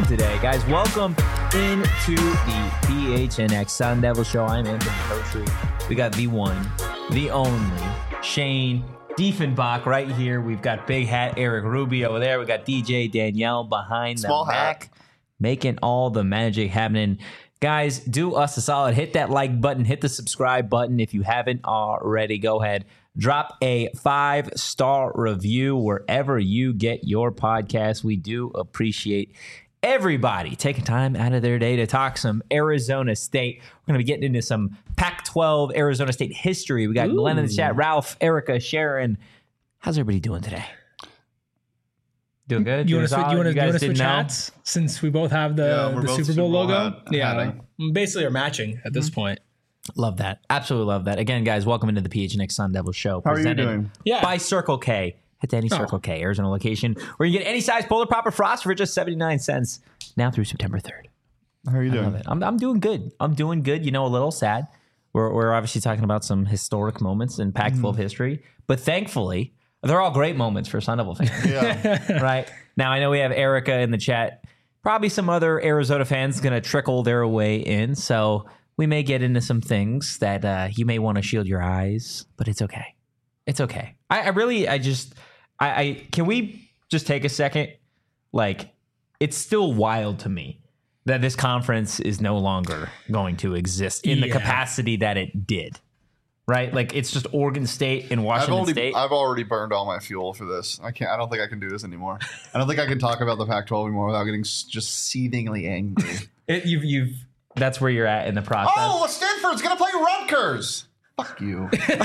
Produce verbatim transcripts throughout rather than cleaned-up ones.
today. Guys, welcome into the P H N X Sun Devil Show. I'm Anthony Kotri. We got the one, the only, Shane Diefenbach right here. We've got Big Hat Eric Ruby over there. We got D J Danielle behind Small the hat. back, making all the magic happening. Guys, do us a solid. Hit that like button. Hit the subscribe button if you haven't already. Go ahead. Drop a five-star review wherever you get your podcast. We do appreciate everybody taking time out of their day to talk some Arizona State. We're going to be getting into some Pac twelve Arizona State history. We got Ooh. Glenn in the chat, Ralph, Erica, Sharon. How's everybody doing today? Doing good? You Doing want to solid? you want to You guys switch didn't know? hats since we both have the, Yeah, we're the both Super Bowl Super Bowl logo? hat- yeah, hatting. basically are matching at this point. Love that. Absolutely love that. Again, guys, welcome into the P H N X Sun Devil Show. How are you presented doing? Yeah. by Circle K. Hit to any Oh. Circle K Arizona location where you get any size Polar Pop or Frost for just seventy-nine cents now through September third. How are you I doing? love it. I'm, I'm doing good. I'm doing good. You know, a little sad. We're, we're obviously talking about some historic moments in Pac twelve history, but thankfully, they're all great moments for Sun Devil fans. Yeah. Right now, I know we have Erica in the chat. Probably some other Arizona fans going to trickle their way in. So we may get into some things that uh, you may want to shield your eyes, but it's okay. It's okay. I, I really, I just, I, I, can we just take a second? Like, it's still wild to me that this conference is no longer going to exist in the Yeah. capacity that it did. Right? Like, it's just Oregon State and I've Washington already, State. I've already burned all my fuel for this. I can't. I don't think I can do this anymore. I don't think I can talk about the Pac twelve anymore without getting s- just seethingly angry. It, you've you've That's where you're at in the process. Oh, Stanford's gonna play Rutgers. Fuck you.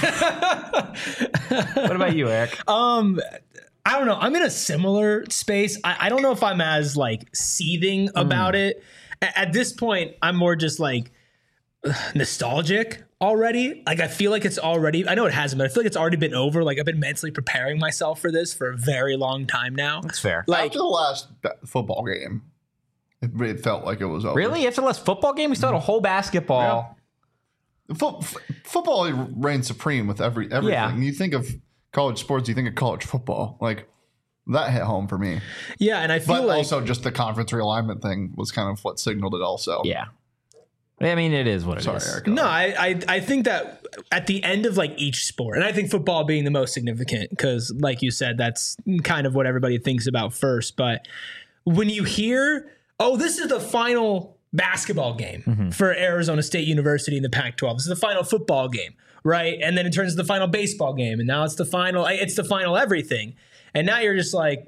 What about you, Eric? um I don't know. I'm in a similar space. I, I don't know if I'm as like seething about it. A- at this point, I'm more just like ugh, nostalgic already. Like I feel like it's already. I know it hasn't, but I feel like it's already been over. Like I've been mentally preparing myself for this for a very long time now. That's fair. Like After the last ba- football game, it, it felt like it was over. Really? After the last football game, we still had a whole basketball. Fo- f- football reigns supreme with every everything. Yeah. You think of college sports, you think of college football. Like that hit home for me. yeah, and I feel But like also just the conference realignment thing was kind of what signaled it also. Yeah. I mean, it is what it is. Sorry, Eric. no, I, I I think that at the end of like each sport, and I think football being the most significant because, like you said, that's kind of what everybody thinks about first. But when you hear, oh, this is the final basketball game Mm-hmm. for Arizona State University in the Pac twelve. This is the final football game, right? And then it turns to the final baseball game, and now it's the final. It's the final everything, and now you're just like,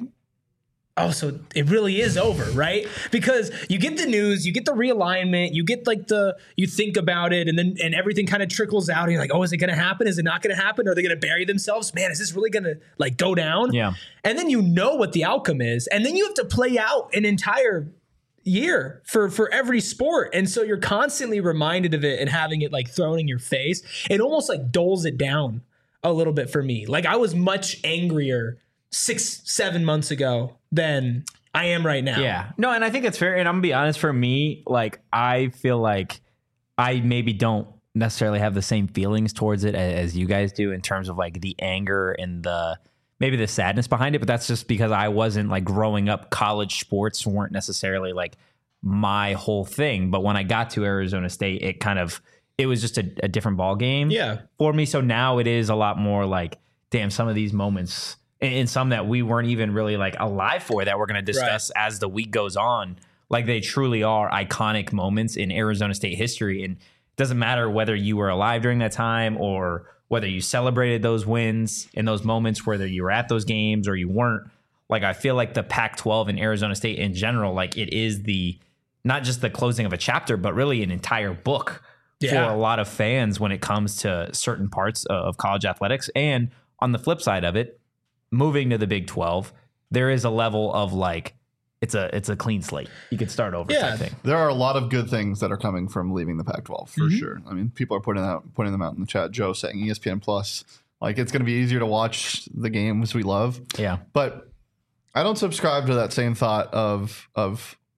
oh, so it really is over, right? Because you get the news, you get the realignment, you get like the, you think about it, and then and everything kind of trickles out. And you're like, oh, is it going to happen? Is it not going to happen? Are they going to bury themselves? Man, is this really going to like go down? Yeah. And then you know what the outcome is, and then you have to play out an entire year for for every sport, and so you're constantly reminded of it and having it like thrown in your face. It almost like doles it down a little bit for me. Like I was much angrier six, seven months ago than I am right now. Yeah. No, and I think it's fair. And I'm going to be honest, for me, like, I feel like I maybe don't necessarily have the same feelings towards it as, as you guys do in terms of like the anger and the maybe the sadness behind it. But that's just because I wasn't like growing up, college sports weren't necessarily like my whole thing. But when I got to Arizona State, it kind of, it was just a, a different ball game Yeah. for me. So now it is a lot more like, damn, some of these moments and, and some that we weren't even really like alive for that we're going to discuss as the week goes on. Like they truly are iconic moments in Arizona State history. And it doesn't matter whether you were alive during that time or whether you celebrated those wins in those moments, whether you were at those games or you weren't. Like I feel like the Pac twelve and Arizona State in general, like it is the, not just the closing of a chapter, but really an entire book Yeah. for a lot of fans when it comes to certain parts of college athletics. And on the flip side of it, moving to the Big twelve, there is a level of like, it's a it's a clean slate. You could start over Yeah. type thing. There are a lot of good things that are coming from leaving the Pac twelve for Mhm. sure. I mean, people are putting out putting them out in the chat. Joe saying E S P N Plus, like it's going to be easier to watch the games we love. Yeah. But I don't subscribe to that same thought of of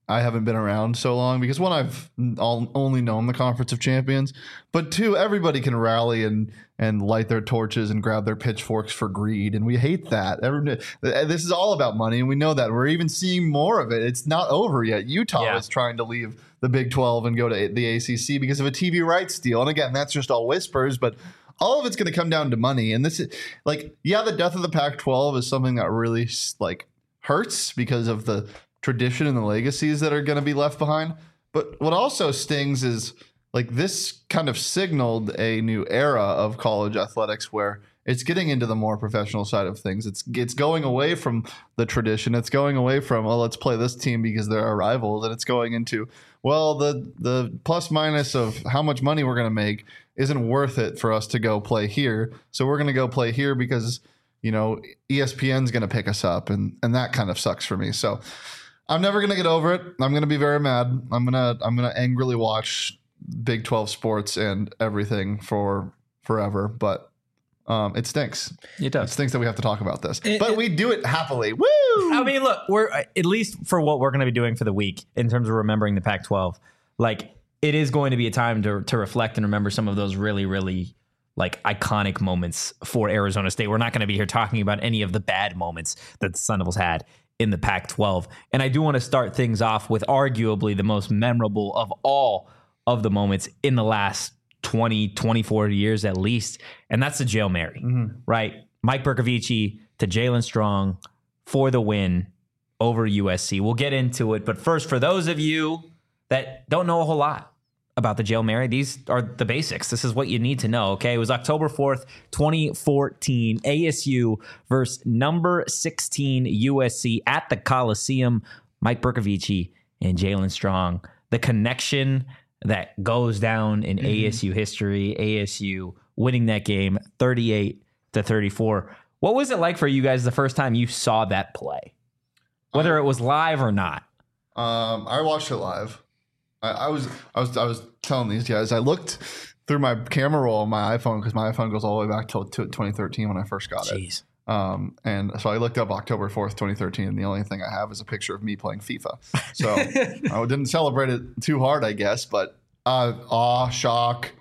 I haven't been around so long because one, I've all, only known the Conference of Champions, but two, everybody can rally and and light their torches and grab their pitchforks for greed, and we hate that. Every, this is all about money, and we know that. We're even seeing more of it. It's not over yet. Utah yeah. is trying to leave the Big twelve and go to the A C C because of a T V rights deal, and again, that's just all whispers, but all of it's going to come down to money. And this is like, yeah, the death of the Pac twelve is something that really like hurts because of the tradition and the legacies that are going to be left behind. But what also stings is like this kind of signaled a new era of college athletics where it's getting into the more professional side of things. It's it's going away from the tradition. It's going away from, well, let's play this team because they're our rivals. And it's going into, well, the the plus minus of how much money we're going to make isn't worth it for us to go play here. So we're going to go play here because, you know, E S P N's going to pick us up. And, and that kind of sucks for me. So I'm never going to get over it. I'm going to be very mad. I'm going to I'm going to angrily watch Big twelve sports and everything for forever. But um, it stinks. It does. It stinks that we have to talk about this. It, but it, we do it happily. Woo! I mean, look, we're at least for what we're going to be doing for the week in terms of remembering the Pac twelve. Like, it is going to be a time to to reflect and remember some of those really, really like iconic moments for Arizona State. We're not going to be here talking about any of the bad moments that the Sun Devils had in the Pac twelve. And I do want to start things off with arguably the most memorable of all of the moments in the last twenty, twenty-four years at least. And that's the Jail Mary, mm-hmm. right? Mike Bercovici to Jalen Strong for the win over U S C. We'll get into it. But first, for those of you that don't know a whole lot about the Jail Mary, these are the basics. This is what you need to know, okay? It was October fourth, twenty fourteen, A S U versus number sixteen U S C at the Coliseum. Mike Bercovici and Jalen Strong. The connection that goes down in mm-hmm. A S U history, A S U winning that game thirty-eight to thirty-four. What was it like for you guys the first time you saw that play? Whether it was live or not? Um, I watched it live. I, I was I was I was telling these guys, I looked through my camera roll on my iPhone because my iPhone goes all the way back till to twenty thirteen when I first got Jeez. it. Um, and so I looked up October fourth, twenty thirteen, and the only thing I have is a picture of me playing FIFA. So I didn't celebrate it too hard, I guess, but uh, awe, shock,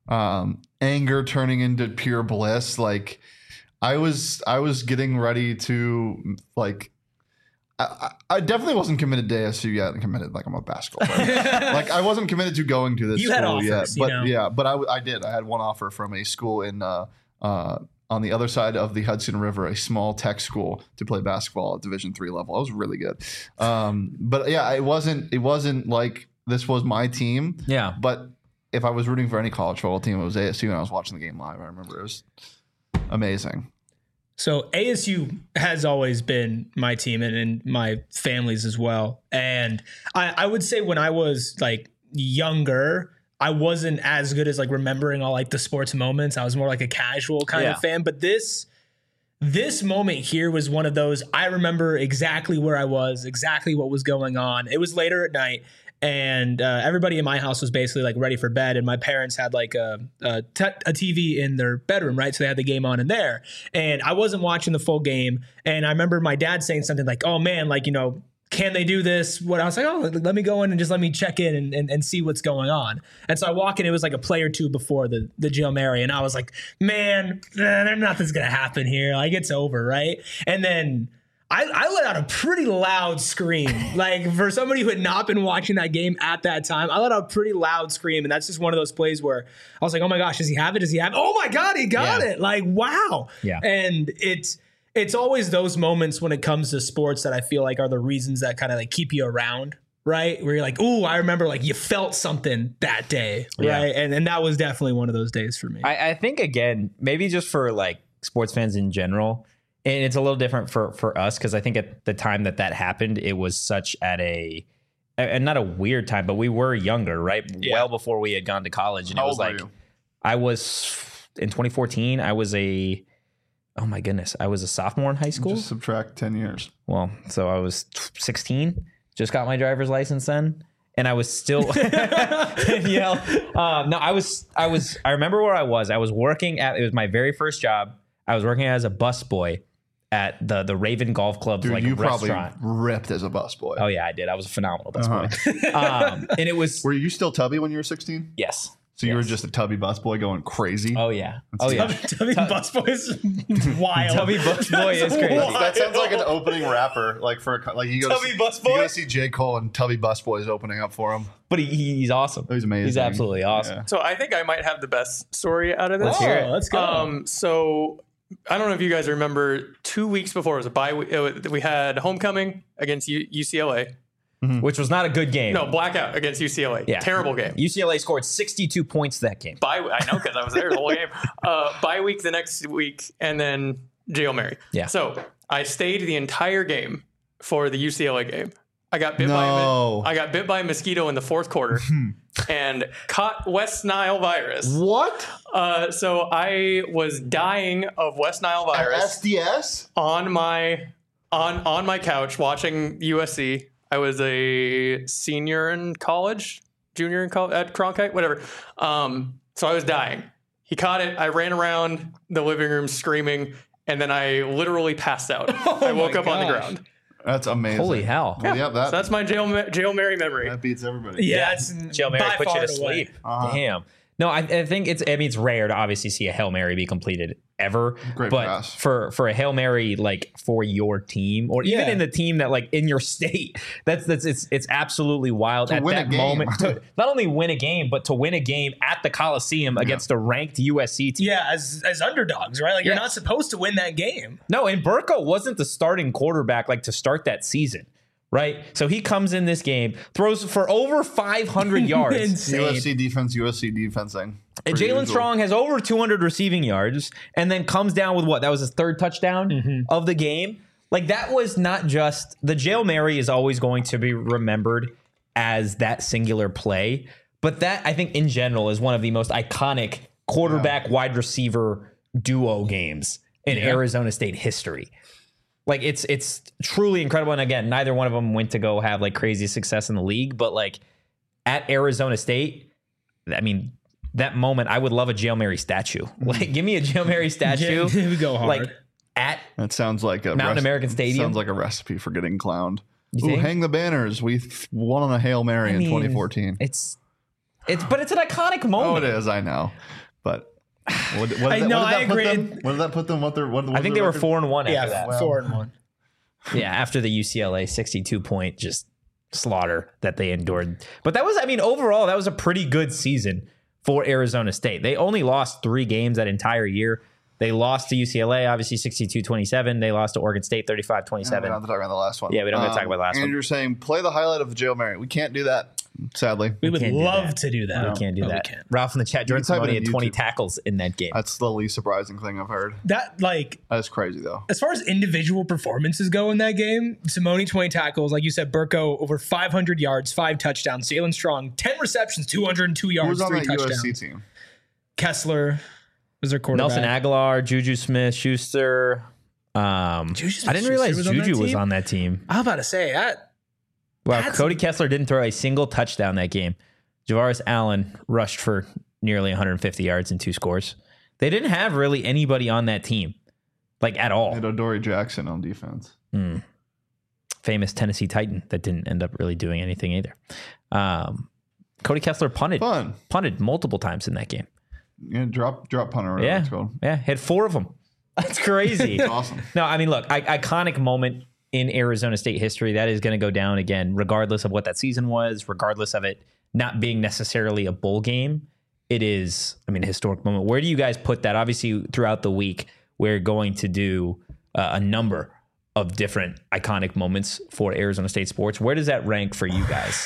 um, anger turning into pure bliss. Like I was, I was getting ready to like. I, I definitely wasn't committed to A S U yet and committed like I'm a basketball player. Like I wasn't committed to going to this you school had offers, yet. But you know? yeah, but I, I did. I had one offer from a school in uh, uh, on the other side of the Hudson River, a small tech school to play basketball at Division three level. I was really good. Um, but yeah, it wasn't it wasn't like this was my team. Yeah. But if I was rooting for any college football team, it was A S U and I was watching the game live. I remember it was amazing. So A S U has always been my team and, and my family's as well. And I, I would say when I was like younger, I wasn't as good as like remembering all like the sports moments. I was more like a casual kind yeah. of fan. But this this moment here was one of those. I remember exactly where I was, exactly what was going on. It was later at night. And uh, everybody in my house was basically like ready for bed. And my parents had like a, a, t- a T V in their bedroom, right? So they had the game on in there. And I wasn't watching the full game. And I remember my dad saying something like, oh man, like, you know, can they do this? What I was like, oh, let me go in and just let me check in and, and, and see what's going on. And so I walk in, it was like a play or two before the, the Jail Mary. And I was like, man, eh, nothing's going to happen here. Like it's over, right? And then I, I let out a pretty loud scream. Like for somebody who had not been watching that game at that time, I let out a pretty loud scream. And that's just one of those plays where I was like, oh my gosh, does he have it? Does he have it? Oh my God, he got yeah. it. Like, wow. Yeah. And it's, it's always those moments when it comes to sports that I feel like are the reasons that kind of like keep you around, right? Where you're like, ooh, I remember like you felt something that day, right? Yeah. And and that was definitely one of those days for me. I, I think, again, maybe just for like sports fans in general, and it's a little different for, for us because I think at the time that that happened, it was such at a, and not a weird time, but we were younger, right? Yeah. Well before we had gone to college. And How it was old like, were you? I was, in twenty fourteen, I was a, oh my goodness, I was a sophomore in high school. Just subtract ten years. Well, so I was sixteen, just got my driver's license then. And I was still, you know, uh, no, I was, I was, I remember where I was. I was working at, it was my very first job. I was working as a busboy at the the Raven Golf Club's Dude, like you restaurant. probably ripped as a busboy. Oh yeah, I did. I was a phenomenal Uh-huh. busboy. um, and it was Were you still tubby when you were sixteen? yes. So you Yes. were just a tubby busboy going crazy? Oh yeah. Oh yeah. Tubby Busboy is wild. Tubby Busboy is That's crazy. wild. That sounds like an opening rapper, like for a, co- like you go Tubby to, Busboy? You go to see J. Cole and Tubby Busboy's opening up for him. But he, he's awesome. He's amazing. He's absolutely awesome. Yeah. So I think I might have the best story out of this. Let's hear it. Oh, let's go. Um, so I don't know if you guys remember, two weeks before it was a bye. We, it, we had homecoming against U, UCLA. Which was not a good game. No, blackout against U C L A. Yeah. Terrible game. U C L A scored sixty-two points that game. Bye. I know because I was there the whole game. Uh, bye week the next week, and then Hail Mary. Yeah. So I stayed the entire game for the U C L A game. I got bit No. by a, I got bit by a mosquito in the fourth quarter and caught West Nile virus. What? Uh, so I was dying of West Nile virus S D S? on my on on my couch watching U S C. I was a senior in college, junior in college at Cronkite, whatever. Um, so I was dying. He caught it. I ran around the living room screaming, and then I literally passed out. I woke my up on the gosh. ground. That's amazing. Holy hell. Well, yeah, that, So that's my jail jail Mary memory. that beats everybody. yeah, it's Hail Mary by put you far to and away. sleep. Uh-huh. Damn. No, I, I think it's. I mean, it's rare to obviously see a Hail Mary be completed ever. Great but pass. for for a Hail Mary like for your team or even Yeah. in the team that like in your state, that's that's it's it's absolutely wild To at win a that game. moment. To not only win a game, but to win a game at the Coliseum against a ranked U S C team. Yeah, as as underdogs, right? Like you're Yeah. not supposed to win that game. No, and Burko wasn't the starting quarterback like to start that season, right? So he comes in this game, throws for over five hundred yards. Insane. U S C defense, U S C defensing. And Per Jalen usual. Strong has over two hundred receiving yards and then comes down with what? That was his third touchdown of the game. Like that was not just the Hail Mary is always going to be remembered as that singular play. But that I think in general is one of the most iconic quarterback wide receiver duo games in Arizona State history. Like it's it's truly incredible. And again, neither one of them went to go have like crazy success in the league, but like at Arizona State, I mean, that moment, I would love a Hail Mary statue. Like, give me a Hail Mary statue. Yeah, we go hard. Like at That sounds like a Mountain American Stadium? Sounds like a recipe for getting clowned. Ooh, think? hang the banners. We th- won on a Hail Mary I in mean, twenty fourteen. It's it's but it's an iconic Oh, moment. it is. I know, but what, what did I that, know, what did I that put agree. them? What did that put them? What their? What, what I think was they their were record? four and one after yeah, that. four and one. Yeah, after the U C L A sixty-two point just slaughter that they endured. But that was, I mean, overall, that was a pretty good season for Arizona State. They only lost three games that entire year. They lost to U C L A, obviously sixty-two twenty-seven. They lost to Oregon State thirty-five Yeah, we twenty-seven. don't have to talk about the last one. Yeah, we don't have to talk about the last and one. you're saying play the highlight of the Hail Mary. We can't do that, sadly. We would can't do love that. to do that. We can't do but that. We can't. Ralph in the chat, Jordan can type it Simone in had twenty YouTube. tackles in that game. That's the least surprising thing I've heard. That like That's crazy though. as far as individual performances go in that game, Simone twenty tackles, like you said, Burko over five hundred yards, five touchdowns. Jalen Strong ten receptions, two hundred two Who yards, was on three that touchdowns. U S C team? Kessler was their quarterback. Nelson Aguilar, Juju Smith, Schuster. Um, Juju I didn't Smith-Schuster realize was on that Juju was team? on that team. I was about to say that. Wow, That's- Cody Kessler didn't throw a single touchdown that game. Javaris Allen rushed for nearly one hundred fifty yards and two scores. They didn't have really anybody on that team, like at all. And Odori Jackson on defense. Mm. Famous Tennessee Titan that didn't end up really doing anything either. Um, Cody Kessler punted, Fun. punted multiple times in that game. Yeah, drop drop punter. whatever Yeah, it's called. yeah, had four of them. That's crazy. It's awesome. No, I mean, look, I, iconic moment in Arizona State history that is going to go down again, regardless of what that season was, regardless of it not being necessarily a bowl game. It is, I mean, a historic moment. Where do you guys put that? Obviously, throughout the week, we're going to do uh, a number of different iconic moments for Arizona State sports. Where does that rank for you guys?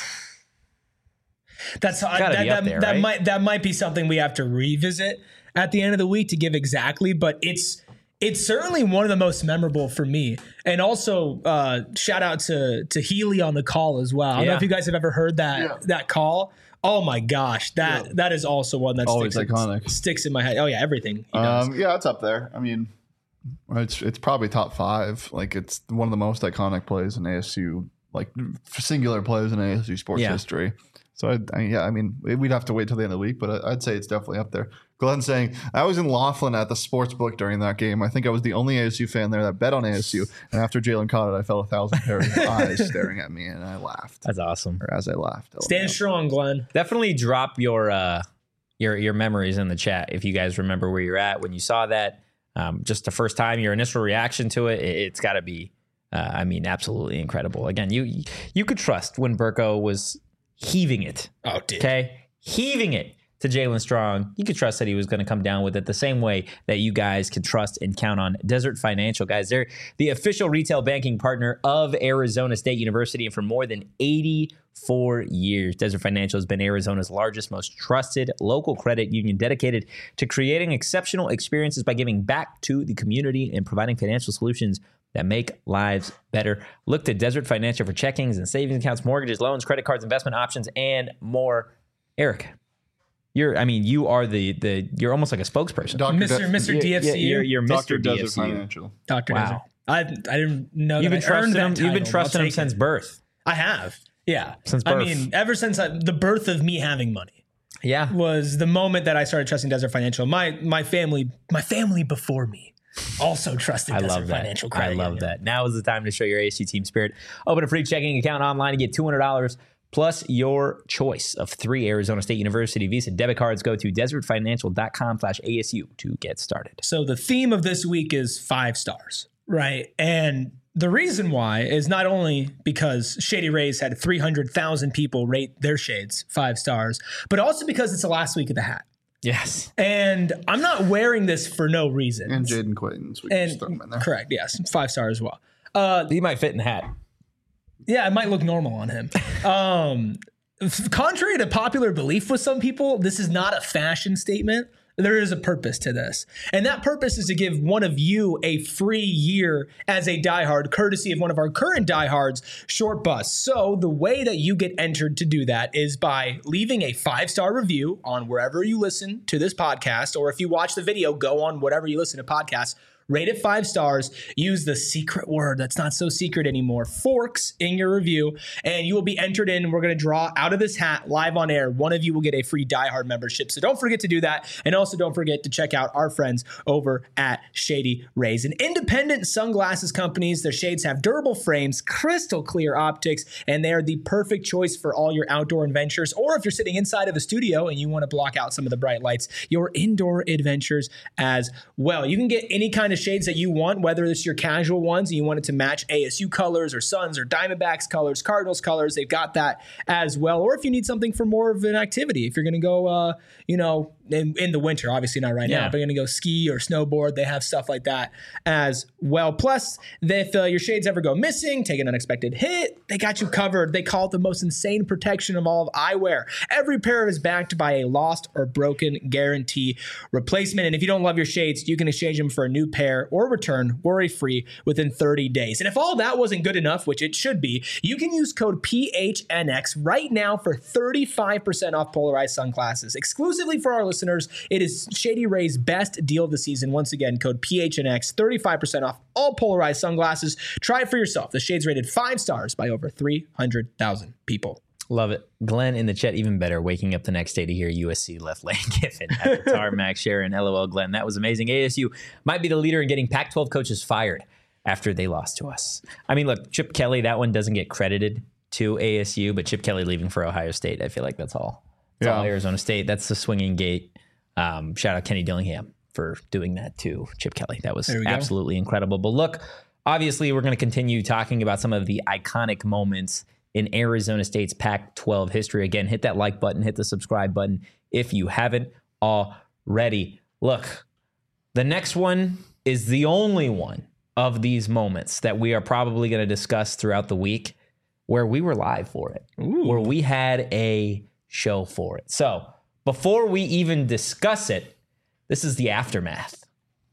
That's uh, gotta that, be up that, there, that right? might that might be something we have to revisit at the end of the week to give exactly, but it's it's certainly one of the most memorable for me. And also, uh, shout out to to Healy on the call as well. I don't know Yeah. if you guys have ever heard that Yeah. that call. Oh my gosh, that Yeah. that is also one that Always sticks iconic. In, sticks in my head. Oh yeah, everything he does. Um, yeah, it's up there. I mean, it's it's probably top five. Like it's one of the most iconic plays in A S U, like singular plays in A S U sports Yeah. history. So, I, I, yeah, I mean, we'd have to wait till the end of the week, but I, I'd say it's definitely up there. Glenn saying, I was in Laughlin at the sports book during that game. I think I was the only A S U fan there that bet on A S U. And after Jalen caught it, I felt a thousand pairs of eyes staring at me, and I laughed. That's awesome. Or as I laughed. Stand strong, Glenn. Definitely drop your uh, your your memories in the chat if you guys remember where you're at when you saw that. Um, just the first time, your initial reaction to it, it it's got to be, uh, I mean, absolutely incredible. Again, you you could trust when Burko was heaving it. Oh, dude. Okay? Heaving it to Jalen Strong. You could trust that he was going to come down with it the same way that you guys can trust and count on Desert Financial. Guys, they're the official retail banking partner of Arizona State University, and for more than eighty-four years, Desert Financial has been Arizona's largest, most trusted local credit union dedicated to creating exceptional experiences by giving back to the community and providing financial solutions that make lives better. Look to Desert Financial for checkings and savings accounts, mortgages, loans, credit cards, investment options, and more. Eric, you're, I mean, you are the, the you're almost like a spokesperson. Doctor Mister De- Mister D F C U. You're, you're Doctor Mister D F Desert C U. Financial. Doctor Wow. Desert. I, I didn't know You've that been I earned trusting him. that You've been title. trusting I'll him take since it. birth. I have. Yeah. Since I birth. mean, ever since I, the birth of me having money Yeah. was the moment that I started trusting Desert Financial. My my family, my family before me also trusted I Desert love that. Financial I Credit love Union. that. Now is the time to show your A S U team spirit. Open a free checking account online and get two hundred dollars plus your choice of three Arizona State University Visa debit cards. Go to desertfinancial.com slash ASU to get started. So the theme of this week is five stars, right? And the reason why is not only because Shady Rays had three hundred thousand people rate their shades five stars, but also because it's the last week of the hat. Yes. And I'm not wearing this for no reason. And Jaden Quaidens. We can And just throw him in there. correct, yes, five stars as well. Uh, He might fit in the hat. yeah, it might look normal on him. Um, f- contrary to popular belief with some people, this is not a fashion statement. There is a purpose to this. And that purpose is to give one of you a free year as a diehard, courtesy of one of our current diehards, Short Bus. So the way that you get entered to do that is by leaving a five-star review on wherever you listen to this podcast, or if you watch the video, go on whatever you listen to podcasts. Rate it five stars. Use the secret word that's not so secret anymore, Forks, in your review, and you will be entered in. We're going to draw out of this hat live on air. One of you will get a free Die Hard membership. So don't forget to do that. And also don't forget to check out our friends over at Shady Rays, an independent sunglasses companies. Their shades have durable frames, crystal clear optics, and they are the perfect choice for all your outdoor adventures. Or if you're sitting inside of a studio and you want to block out some of the bright lights, your indoor adventures as well. You can get any kind of shades that you want, whether it's your casual ones and you want it to match A S U colors or Suns or Diamondbacks colors, Cardinals colors, they've got that as well. Or if you need something for more of an activity, if you're going to go, uh, you know, in, in the winter, obviously not right Yeah. now, but you're going to go ski or snowboard, they have stuff like that as well. Plus, if uh, your shades ever go missing, take an unexpected hit, they got you covered. They call it the most insane protection of all of eyewear. Every pair is backed by a lost or broken guarantee replacement. And if you don't love your shades, you can exchange them for a new pair or return worry-free within thirty days. And if all that wasn't good enough, which it should be, you can use code P H N X right now for thirty-five percent off polarized sunglasses. Exclusively for our listeners, it is Shady Rays' best deal of the season. Once again, code P H N X, thirty-five percent off all polarized sunglasses. Try it for yourself. The shades rated five stars by over three hundred thousand people. Love it. Glenn in the chat, even better, waking up the next day to hear U S C left Lane Kiffin at the tarmac. Sharon, LOL, Glenn. That was amazing. A S U might be the leader in getting Pac twelve coaches fired after they lost to us. I mean, look, Chip Kelly, that one doesn't get credited to A S U, but Chip Kelly leaving for Ohio State, I feel like that's all. That's Yeah. all Arizona State. That's the swinging gate. Um, shout out Kenny Dillingham for doing that to Chip Kelly. That was There we go. absolutely incredible. But look, obviously, we're going to continue talking about some of the iconic moments in Arizona State's Pac twelve history. Again, hit that like button, hit the subscribe button if you haven't already. Look, the next one is the only one of these moments that we are probably going to discuss throughout the week where we were live for it, Ooh. where we had a show for it. So before we even discuss it, this is the aftermath.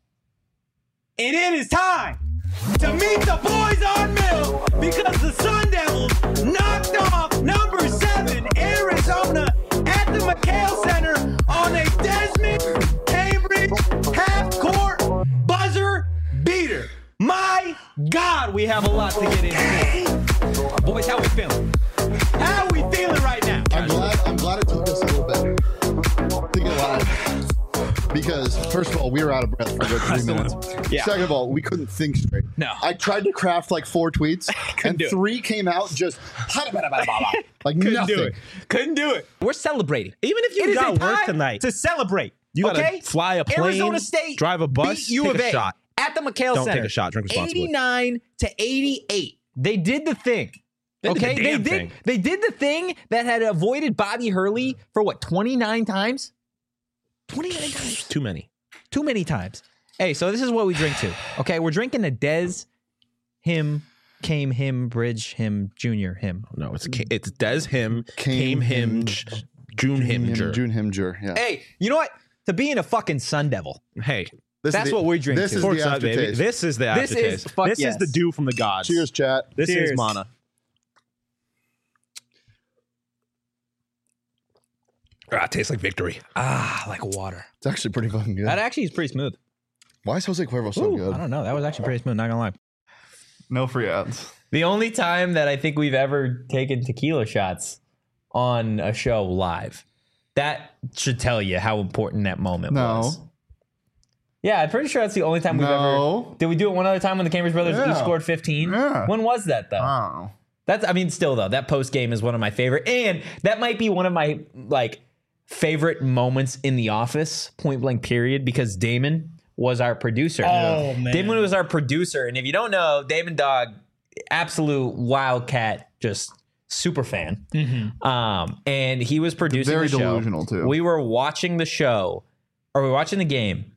And it is time to meet the boys on Mill because the Sun Devils knocked off number seven Arizona at the McHale Center on a Desmond Cambridge half-court buzzer beater. My God, we have a lot to get into. Boys, how we feeling? How we feeling right now? I'm glad because first of all, we were out of breath for a good three minutes. Yeah. Second of all, we couldn't think straight. No. I tried to craft like four tweets, and do it. three came out just like Couldn't nothing. do it. Couldn't do it. We're celebrating. Even if It you is got a worse time tonight, to celebrate. you gotta okay? fly a plane, Arizona State drive a bus, beat U take of a A shot. at the McHale Don't Center. take a shot. Drink responsibly. eighty-nine to eighty-eight. They did the thing. They did the okay, they damn did. thing. They did the thing that had avoided Bobby Hurley for what twenty-nine times. twenty-nine times. Too many. Too many times. Hey, so this is what we drink to. Okay, we're drinking a Dez, him, came him, bridge him, junior him. No, it's Ca- it's Des him, Came came him, him, J- June him, June, June Himger. Yeah. Hey, you know what? To being a fucking Sun Devil. Hey, This is That's the- what we drink This to. is pork the side, baby. aftertaste. This is the This is- aftertaste. fuck This yes. is the dew from the gods. Cheers, chat. This Cheers. is Mana. Ah, it tastes like victory. Ah, like water. It's actually pretty fucking good. That actually is pretty smooth. Why is Jose Cuervo so Ooh, good? I don't know. That was actually pretty smooth. Not gonna lie. No free ads. The only time that I think we've ever taken tequila shots on a show live. That should tell you how important that moment No. was. Yeah, I'm pretty sure that's the only time we've No. ever. Did we do it one other time when the Cambridge brothers Yeah. each scored fifteen? Yeah. When was that though? I don't know. That's I mean, still though, that post game is one of my favorite, and that might be one of my like favorite moments in The Office, point blank period, because Damon was our producer. Oh, man. Damon was our producer, and if you don't know, Damon Dog, absolute wildcat, just super fan. Um, and he was producing Very the show. delusional, too. We were watching the show, or we were watching the game,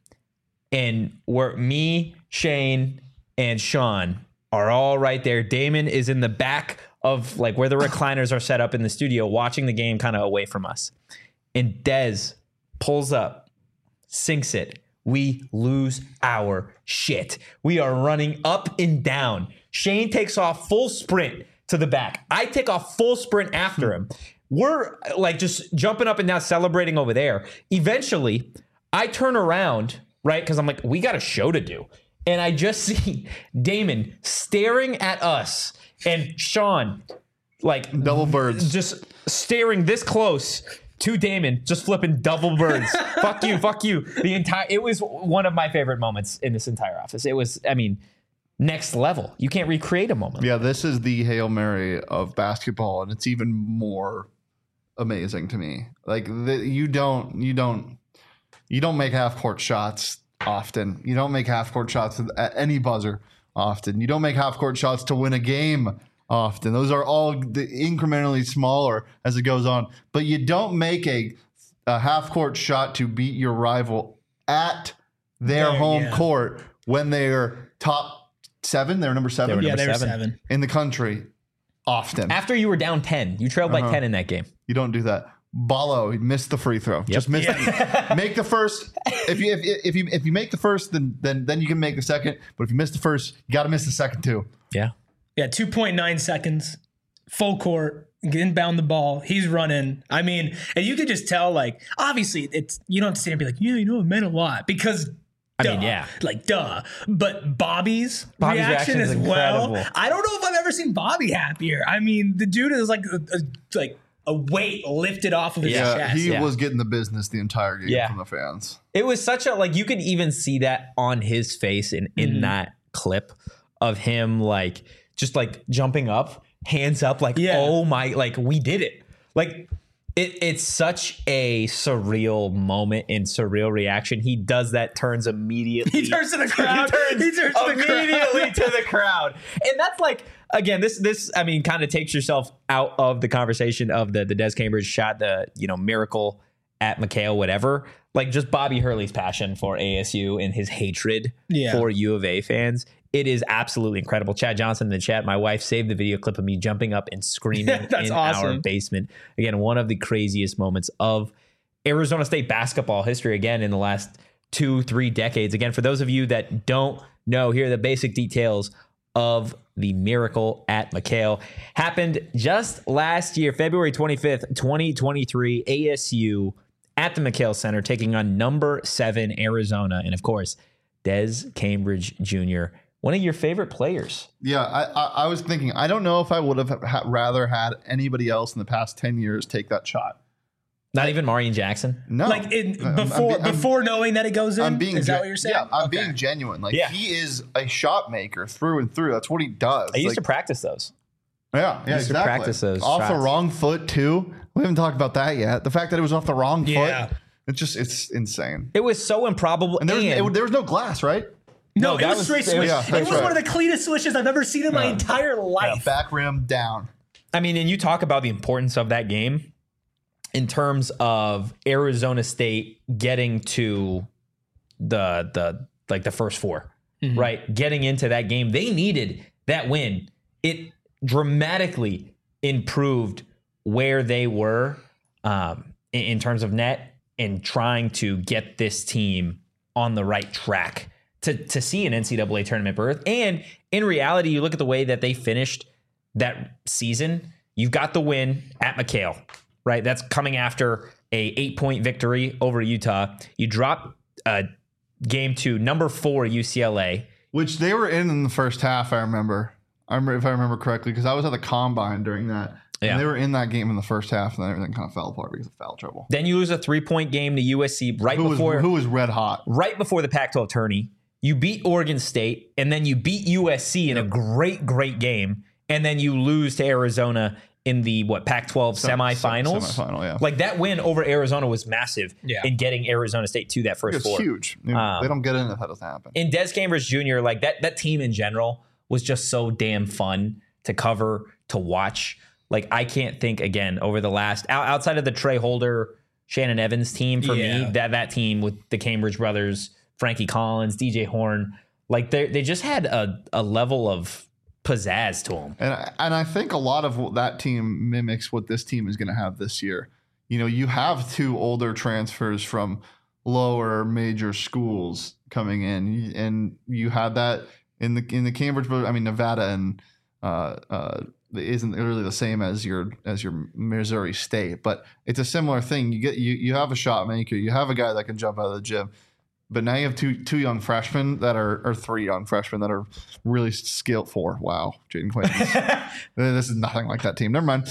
and we're me, Shane, and Sean are all right there. Damon is in the back of like where the recliners are set up in the studio, watching the game kind of away from us. And Dez pulls up, sinks it. We lose our shit. We are running up and down. Shane takes off full sprint to the back. I take off full sprint after him. We're like just jumping up and down, celebrating over there. Eventually, I turn around, right? Because I'm like, we got a show to do. And I just see Damon staring at us and Sean, like Double birds. just staring this close to Damon, just flipping double birds. Fuck you, fuck you. The entire it was one of my favorite moments in this entire office. It was, I mean, next level. You can't recreate a moment. Yeah, this is the Hail Mary of basketball, and it's even more amazing to me. Like the, you don't, you don't, you don't make half court shots often. You don't make half court shots at any buzzer often. You don't make half court shots to win a game often. Those are all the incrementally smaller as it goes on. But you don't make a, a half court shot to beat your rival at their There, home yeah. court when they're top seven. They're number seven Yeah, number they were seven. seven. in the country often. After you were down ten, you trailed by Uh-huh. ten in that game. You don't do that. Ballo, he missed the free throw. Just miss make the first. If you if, if you if you make the first, then then then you can make the second. But if you miss the first, you got to miss the second too. Yeah. Yeah, two point nine seconds, full court, inbound the ball. He's running. I mean, and you could just tell, like, obviously, it's you don't have to sit and be like, yeah, you know, it meant a lot because. I Duh. mean, yeah. Like, duh. But Bobby's, Bobby's reaction, reaction as is well. incredible. I don't know if I've ever seen Bobby happier. I mean, the dude is like a, a, like a weight lifted off of his Yeah, chest. he yeah. was getting the business the entire game Yeah. from the fans. It was such a like you could even see that on his face in in Mm-hmm. that clip of him like just like jumping up, hands up, like Yeah. oh my, like we did it. Like it, it's such a surreal moment and surreal reaction. He does that, turns immediately. He turns to the crowd. He turns, He turns to the crowd. immediately to the crowd, and that's like again, this this I mean, kind of takes yourself out of the conversation of the the Des Cambridge shot, the you know miracle at McHale, whatever. Like just Bobby Hurley's passion for A S U and his hatred Yeah. for U of A fans. It is absolutely incredible. Chad Johnson in the chat, my wife saved the video clip of me jumping up and screaming That's in awesome. our basement. Again, one of the craziest moments of Arizona State basketball history, again, in the last two, three decades. Again, for those of you that don't know, here are the basic details of the miracle at McHale. Happened just last year, February twenty-fifth, twenty twenty-three, A S U at the McHale Center, taking on number seven Arizona. And of course, Des Cambridge Junior, one of your favorite players. Yeah, I, I, I was thinking, I don't know if I would have ha- rather had anybody else in the past ten years take that shot Not even Marion Jackson. No, Like in, I'm- I'm before be- I'm- before knowing that it goes in. I'm being is that gen- what you're saying? Yeah, I'm Okay. being genuine. Like Yeah. he is a shot maker through and through. That's what he does. I used Like, to practice those. Yeah, yeah, used to exactly. practice those off the shots. wrong foot too. We haven't talked about that yet. The fact that it was off the wrong Yeah. foot. It's just it's insane. It was so improbable. And there was, and- it, there was no glass, right? No, No, it that was was- straight it swish. was- yeah, it that's was right. one of the cleanest swishes I've ever seen in my entire life. Back rim down. I mean, and you talk about the importance of that game in terms of Arizona State getting to the the like the first four, right? Getting into that game. They needed that win. It dramatically improved where they were um, in, in terms of net and trying to get this team on the right track to to see an N C double A tournament berth. And in reality, you look at the way that they finished that season. You've got the win at McHale, right? That's coming after a eight point victory over Utah. You drop uh, game to number four U C L A. Which they were in in the first half, I remember. I remember if I remember correctly, because I was at the combine during that. Yeah. And they were in that game in the first half, and then everything kind of fell apart because of foul trouble. Then you lose a three point game to U S C right Who was before who was red hot? right before the Pac twelve tourney. You beat Oregon State, and then you beat U S C in a great, great game, and then you lose to Arizona in the what Pac twelve Sem- semifinals. Semifinal, yeah. Like that win over Arizona was massive Yeah. in getting Arizona State to that first It's four. huge. They- Um, they don't get in if that doesn't happen. And Des Cambridge Junior, like that that team in general was just so damn fun to cover, to watch. Like I can't think again over the last out- outside of the Trey Holder, Shannon Evans team for Yeah. me, that that team with the Cambridge brothers, Frankie Collins, D J Horn, like they they just had a, a level of pizzazz to them. And I, and I think a lot of what that team mimics what this team is going to have this year. You know, you have two older transfers from lower major schools coming in, and you had that in the in the Cambridge. I mean, Nevada and uh, uh, isn't really the same as your as your Missouri State, but it's a similar thing. You get you you have a shot maker, you have a guy that can jump out of the gym. But now you have two two young freshmen that are, or three young freshmen that are really skilled for. Wow, Jaden Clayton. This is nothing like that team. Never mind.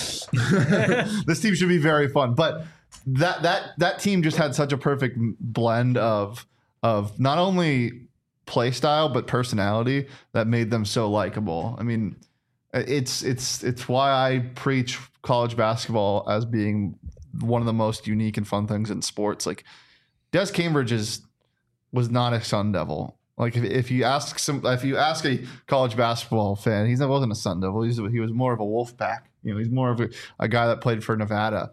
This team should be very fun. But that that that team just had such a perfect blend of of not only play style but personality that made them so likable. I mean, it's it's it's why I preach college basketball as being one of the most unique and fun things in sports. Like Des Cambridge is. was not a Sun Devil. Like if, if you ask some, if you ask a college basketball fan, he wasn't a Sun Devil. He's, he was more of a Wolfpack. You know, he's more of a, a guy that played for Nevada,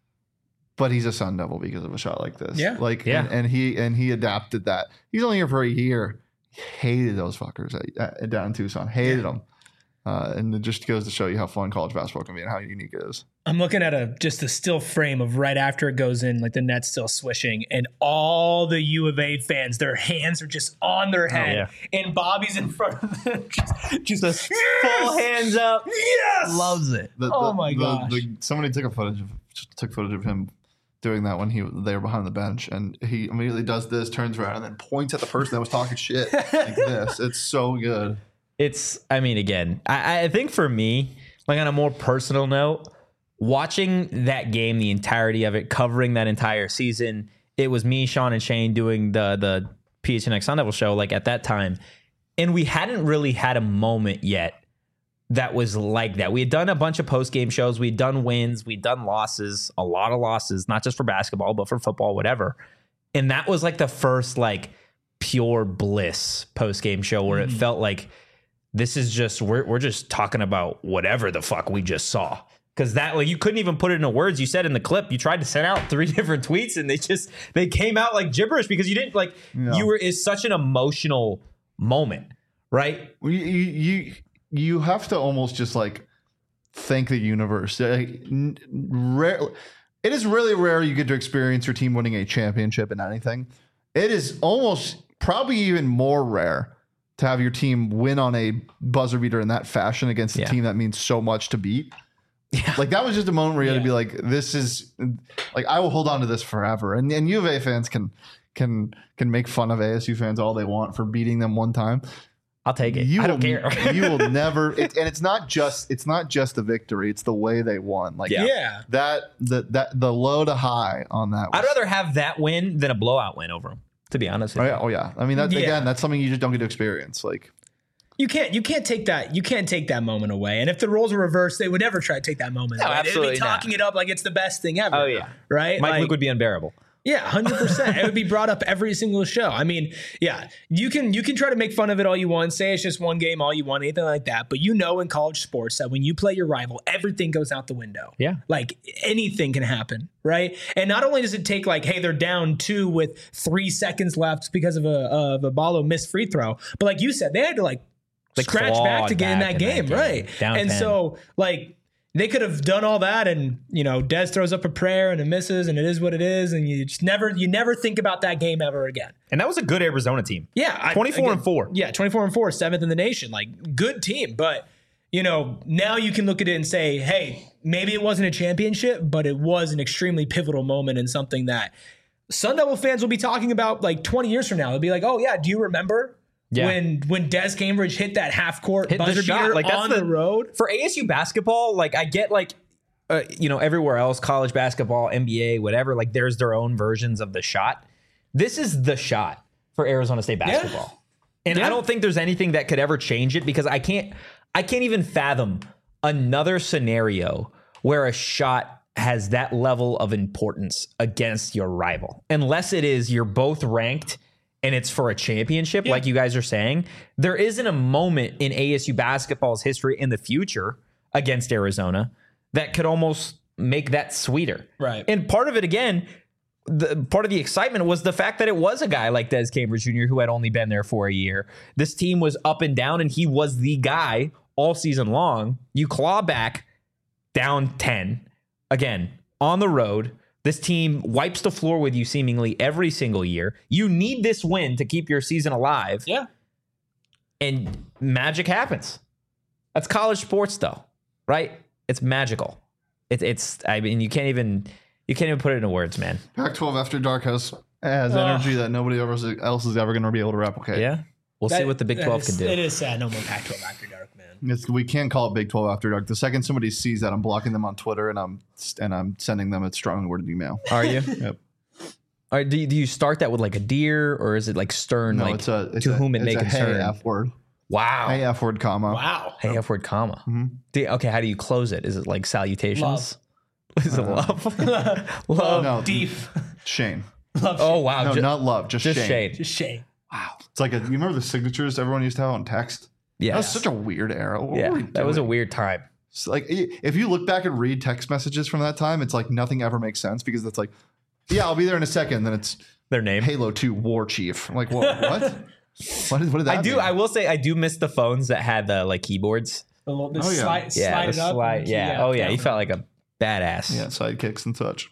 but he's a Sun Devil because of a shot like this. Yeah. Like, Yeah. And, and he and he adapted that. He's only here for a year. He hated those fuckers at, at, down in Tucson. Hated them. Uh, and it just goes to show you how fun college basketball can be and how unique it is. I'm looking at a just a still frame of right after it goes in, like the net's still swishing, and all the U of A fans, their hands are just on their head, and Bobby's in front of them, just, just Full hands up. yes, Loves it. The, Oh the- my the- gosh. the- somebody took a footage of took footage of him doing that when he they were behind the bench, and he immediately does this, turns around, and then points at the person that was talking shit like this. It's so good. It's, I mean, again, I, I think for me, like on a more personal note, watching that game, the entirety of it, covering that entire season, it was me, Sean, and Shane doing the the P H N X Sun Devil show like at that time. And we hadn't really had a moment yet that was like that. We had done a bunch of post-game shows. We'd done wins. We'd done losses, a lot of losses, not just for basketball, but for football, whatever. And that was like the first like pure bliss post-game show where it felt like this is just, we're, we're just talking about whatever the fuck we just saw. Because that, like, you couldn't even put it into words. You said in the clip, you tried to send out three different tweets and they just, they came out like gibberish because you didn't, like, Yeah. you were, it's such an emotional moment, right? You, you you you have to almost just like thank the universe. Like, n- rare, it is really rare you get to experience your team winning a championship in anything. It is almost probably even more rare to have your team win on a buzzer beater in that fashion against a Yeah. team that means so much to beat. Like that was just a moment where you had to be like, this is like, I will hold on to this forever. And and U of A fans can can can make fun of A S U fans all they want for beating them one time. I'll take it. You I don't will, care. you will never, it, and it's not just it's not just the victory; it's the way they won. Like Yeah. Yeah. that, the that the low to high on that. Was, I'd rather have that win than a blowout win over them, to be honest Oh with you. yeah, oh yeah. I mean, that Yeah. again, that's something you just don't get to experience. Like, You can't you can't take that you can't take that moment away. And if the roles were reversed, they would never try to take that moment No, away. absolutely They'd be talking it up like it's the best thing ever. Oh, yeah. Right? Mike Like, Luke would be unbearable. yeah, one hundred percent. It would be brought up every single show. I mean, yeah, you can you can try to make fun of it all you want, say it's just one game all you want, anything like that. But you know in college sports that when you play your rival, everything goes out the window. Yeah. Like anything can happen, right? And not only does it take like, hey, they're down two with three seconds left because of a of a Ballo missed free throw, but like you said, they had to like, Like scratch back clawed to get in back that in that game, game. right? Down and ten. so like they could have done all that, and you know, Dez throws up a prayer and it misses, and it is what it is, and you just never you never think about that game ever again. And that was a good Arizona team. Yeah, I- twenty-four again, and four. Yeah, twenty-four and four, seventh in the nation. Like good team, but you know, now you can look at it and say, hey, maybe it wasn't a championship, but it was an extremely pivotal moment and something that Sun Devil fans will be talking about like twenty years from now. They'll be like, oh yeah, do you remember? Yeah. When when Des Cambridge hit that half court Hit the buzzer shot. beater Like, that's on the- the road. For A S U basketball, like I get like uh, you know, everywhere else, college basketball, N B A, whatever, like there's their own versions of the shot. This is the shot for Arizona State basketball. And Yeah. I don't think there's anything that could ever change it because I can't I can't even fathom another scenario where a shot has that level of importance against your rival. Unless it is you're both ranked and it's for a championship, like you guys are saying. There isn't a moment in A S U basketball's history in the future against Arizona that could almost make that sweeter. Right. And part of it, again, the part of the excitement was the fact that it was a guy like Des Cambridge Junior who had only been there for a year. This team was up and down, and he was the guy all season long. You claw back down ten, again, on the road. This team wipes the floor with you seemingly every single year. You need this win to keep your season alive. Yeah. And magic happens. That's college sports, though, right? It's magical. It, it's, I mean, you can't even, you can't even put it into words, man. Pac twelve After Dark has has energy that nobody else else is ever going to be able to replicate. Yeah. We'll see what the Big That twelve is- can do. It is sad. No more Pac twelve after dark, man. It's, we can't call it Big twelve After Dark. The second somebody sees that, I'm blocking them on Twitter and I'm and I'm sending them a strongly worded email. Are you? Yep. Or do you, do you start that with like a deer, or is it like stern? No, like it's a it's to a, whom it it's may a concern. hey F word. Wow. Hey F word comma. Wow. Hey, F word comma. Do you- okay, how do you close it? Is it like salutations? Love. Is it love? love. No, Deep. Shane. Oh wow. No, Ju- not love. Just, just Shane. shade. Just shame. Wow. It's like a. You remember the signatures everyone used to have on text? Yeah. That was such a weird era. What yeah. were we That was a doing? weird time. It's like i- if you look back and read text messages from that time, it's like nothing ever makes sense because it's like, yeah, I'll be there in a second. Then it's Their name. Halo two War Chief. I'm like, what? What? what, did, what did that I do. mean? I will say I do miss the phones that had the like keyboards. The little, the Oh, yeah. slide, Yeah. slide the it up. slide- and- yeah. Oh yeah. You felt like a badass. Yeah, sidekicks and such.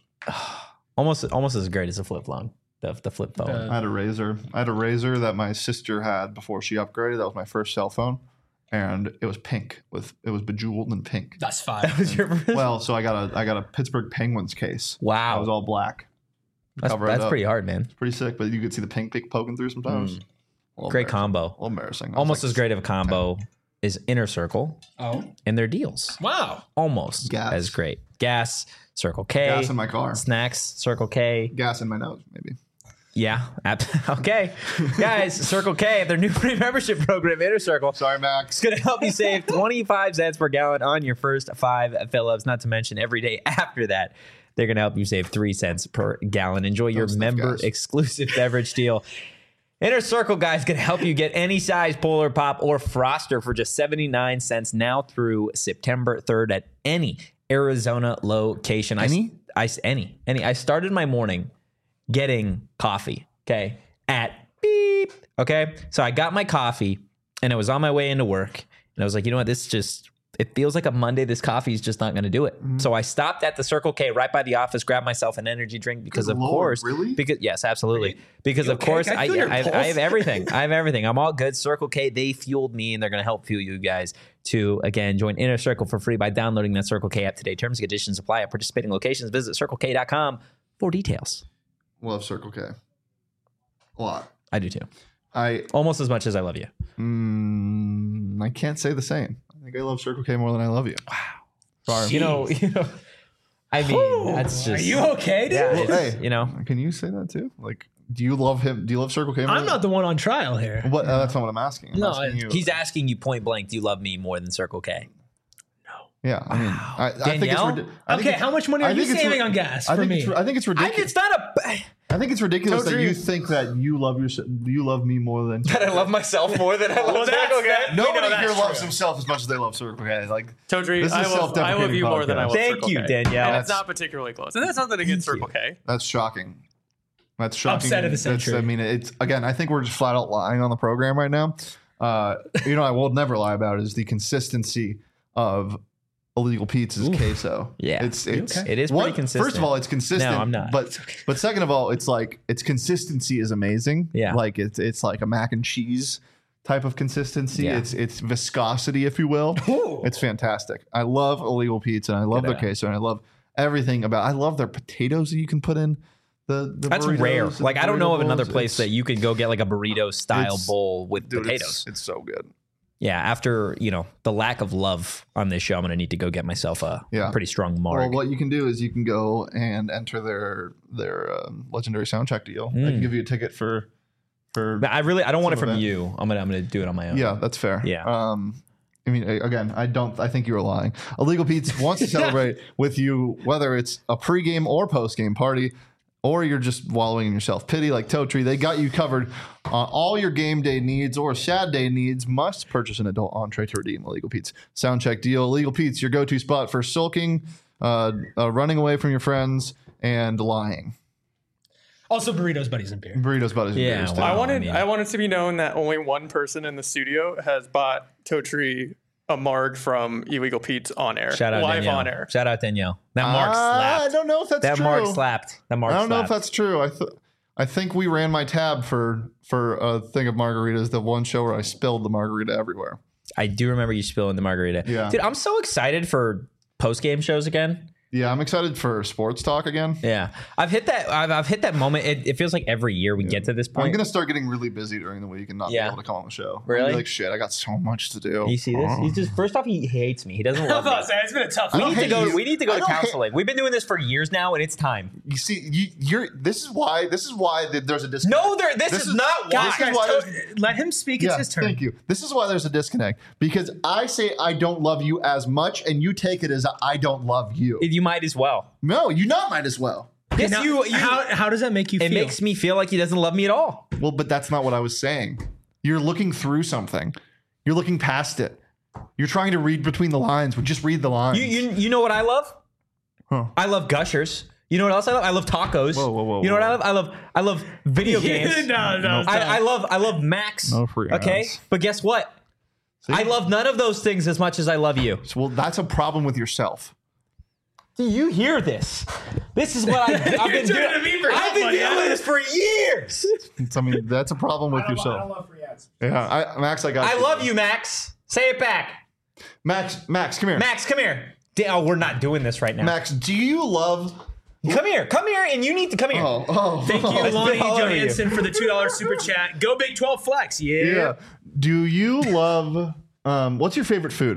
Almost almost as great as a flip phone. The the flip phone. The- I had a razor. I had a razor that my sister had before she upgraded. That was my first cell phone, and it was pink with it was bejeweled in pink. That's fine. that was your first. Well, so I got a I got a Pittsburgh Penguins case. Wow. It was all black. That's, Cover it that's up. pretty hard, man. Pretty sick, but you could see the pink pick poking through sometimes. A little Great embarrassing. combo. A little embarrassing. I was Almost like, as great of a combo is Inner Circle Oh. and their deals. Wow. Almost Gas. as great. Gas, Circle K. Gas in my car. Snacks, Circle K. Gas in my nose, maybe. Yeah. ab- Okay. Guys, Circle K, their new free membership program, Inner Circle. Sorry, Max. It's going to help you save twenty-five cents per gallon on your first five fill-ups, not to mention every day after that. They're going to help you save three cents per gallon. Enjoy your stuff, member guys. exclusive beverage deal. Inner Circle, guys, can help you get any size Polar Pop or Froster for just seventy-nine cents now through September third at any Arizona location. Any? I, I, any. Any. I started my morning getting coffee, okay, at beep, okay? So I got my coffee, and I was on my way into work, and I was like, you know what, this just, it feels like a Monday. This coffee is just not going to do it. Mm-hmm. So I stopped at the Circle K right by the office, grabbed myself an energy drink because, Good of Lord, course, really? because yes, absolutely, because of okay? course, Can I I, feel your I, have, I pulse? have everything. I have everything. I'm all good. Circle K, they fueled me, and they're going to help fuel you guys to again join Inner Circle for free by downloading that Circle K app today. Terms and conditions apply at participating locations. Visit circle k dot com for details. Love Circle K. A lot. I do too. I Almost as much as I love you. mm, I can't say the same. I think I love Circle K more than I love you. Wow. Sorry. You know, you know. I mean, that's just. Are you okay, dude? Yeah, Well, it's, hey, you know. Can you say that too? Like, do you love him? Do you love Circle K more? I'm not the one on trial here. What? Uh, that's not what I'm asking. I'm No, asking you. He's asking you point blank, do you love me more than Circle K? Yeah, I mean, I, I think it's. Danielle? ridi- I think Okay, it's- how much money I are you think it's saving ri- on gas I for think me? It's, I think it's I, ridiculous. it's not a. I think it's ridiculous that Totally. you think that you love your you love me more than. That I love myself more than I love Well, that's- Circle K. that- we know Nobody that's here loves true. himself as much as they love Circle K. Like, Todri, This is I a love, I love self-deprecating you more than I podcast. love Thank Circle you, K. Danielle. And it's not particularly close. And that's nothing against Circle K. that's shocking. That's shocking. Upset of the That's- century. I mean, it's again. I think we're just flat out lying on the program right now. Uh, you know, I will never lie about is the consistency of Illegal Pete's queso. Yeah. it's it's okay? It is one- pretty consistent. First of all, it's consistent. No, I'm not. But but second of all, it's like its consistency is amazing. Yeah. like it's it's like a mac and cheese type of consistency. Yeah. It's it's viscosity, if you will. It's fantastic. I love Illegal Pete's and I love their queso and I love everything about. I love their potatoes that you can put in. The, the That's burritos rare. and Like the I don't know burrito of another bowls. place It's- that you could go get like a burrito style it's- bowl with dude, potatoes. It's, it's so good. Yeah, after you know the lack of love on this show, I'm gonna need to go get myself a Yeah. pretty strong Well, marg. what you can do is you can go and enter their their um, legendary soundcheck deal. I Mm. can give you a ticket for for. But I really I don't want it Some from of that. you. I'm gonna I'm gonna do it on my own. Yeah, that's fair. Yeah. Um, I mean, a- again, I don't. I think you were lying. Illegal Pete's wants to celebrate with you, whether it's a pregame or postgame party, or you're just wallowing in your self pity like Totri. They got you covered on all your game day needs or sad day needs. Must purchase an adult entree to redeem Illegal Pete's soundcheck deal. Illegal Pete's, your go-to spot for sulking, uh, uh, running away from your friends, and lying. Also, burritos, buddies, and beer. Burritos, buddies, and Yeah, beers, too. wow. I wanted I mean- I wanted to be known that only one person in the studio has bought Totri a marg from Illegal Pete's on air. Shout out live Danielle. on air. Shout out Danielle. That mark Uh, slapped. I don't know if that's that true. mark slapped. That mark I don't know if slapped. that's true. I th- I think we ran my tab for for a thing of margaritas. The one show where I spilled the margarita everywhere. I do remember you spilling the margarita. Yeah. Dude, I'm so excited for post game shows again. Yeah, I'm excited for sports talk again. Yeah, I've hit that. I've, I've hit that moment. It, it feels like every year we get to this I'm point. gonna start getting really busy during the week and not Yeah. be able to come on the show. I'm Really? gonna be like, shit, I got so much to do. You see this? Oh. He's just first off, he hates me. He doesn't I love me. was saying, it's been a tough We don't need to hate go. you. We need to go I to don't hate- counseling. We've been doing this for years now, and it's time. You see, you, you're. This is why. This is why th- there's a disconnect. No, there. This, This is, is- not why. Guys, This is guys, why to- there's- let him speak. It's Yeah, his turn. thank you. This is why there's a disconnect because I say I don't love you as much, and you take it as I don't love you. You might as well. No, you not might as well. Yes, Now, you. you how, how does that make you it feel? makes me feel like he doesn't love me at all. Well, but that's not what I was saying. You're looking through something. You're looking past it. You're trying to read between the lines. Well, just read the lines. You, you, you know what I love? Huh. I love Gushers. You know what else I love? I love tacos. Whoa, whoa, whoa, You know what whoa. I love? I love I love video games. no, no, I, I love I love Max. No free Okay, ads. but guess what? See? I love none of those things as much as I love you. So, well, that's a problem with yourself. Do you hear this? This is what I, I've been turning doing. to me for I've help, been buddy. dealing with this for years. It's, I mean, that's a problem with yourself. love free ads. Yeah, I, Max, I got. I love you, Max. Say it back. Max. Max, come here. Max, come here. Da- Oh, we're not doing this right now. Max, do you love? Come here. Come here, and you need to come here. Oh, oh, Thank you, Let's Lonnie be all over you. Johansson, for the two dollar super chat. Go Big twelve Flex. Yeah. Yeah. Do you love? Um, what's your favorite food?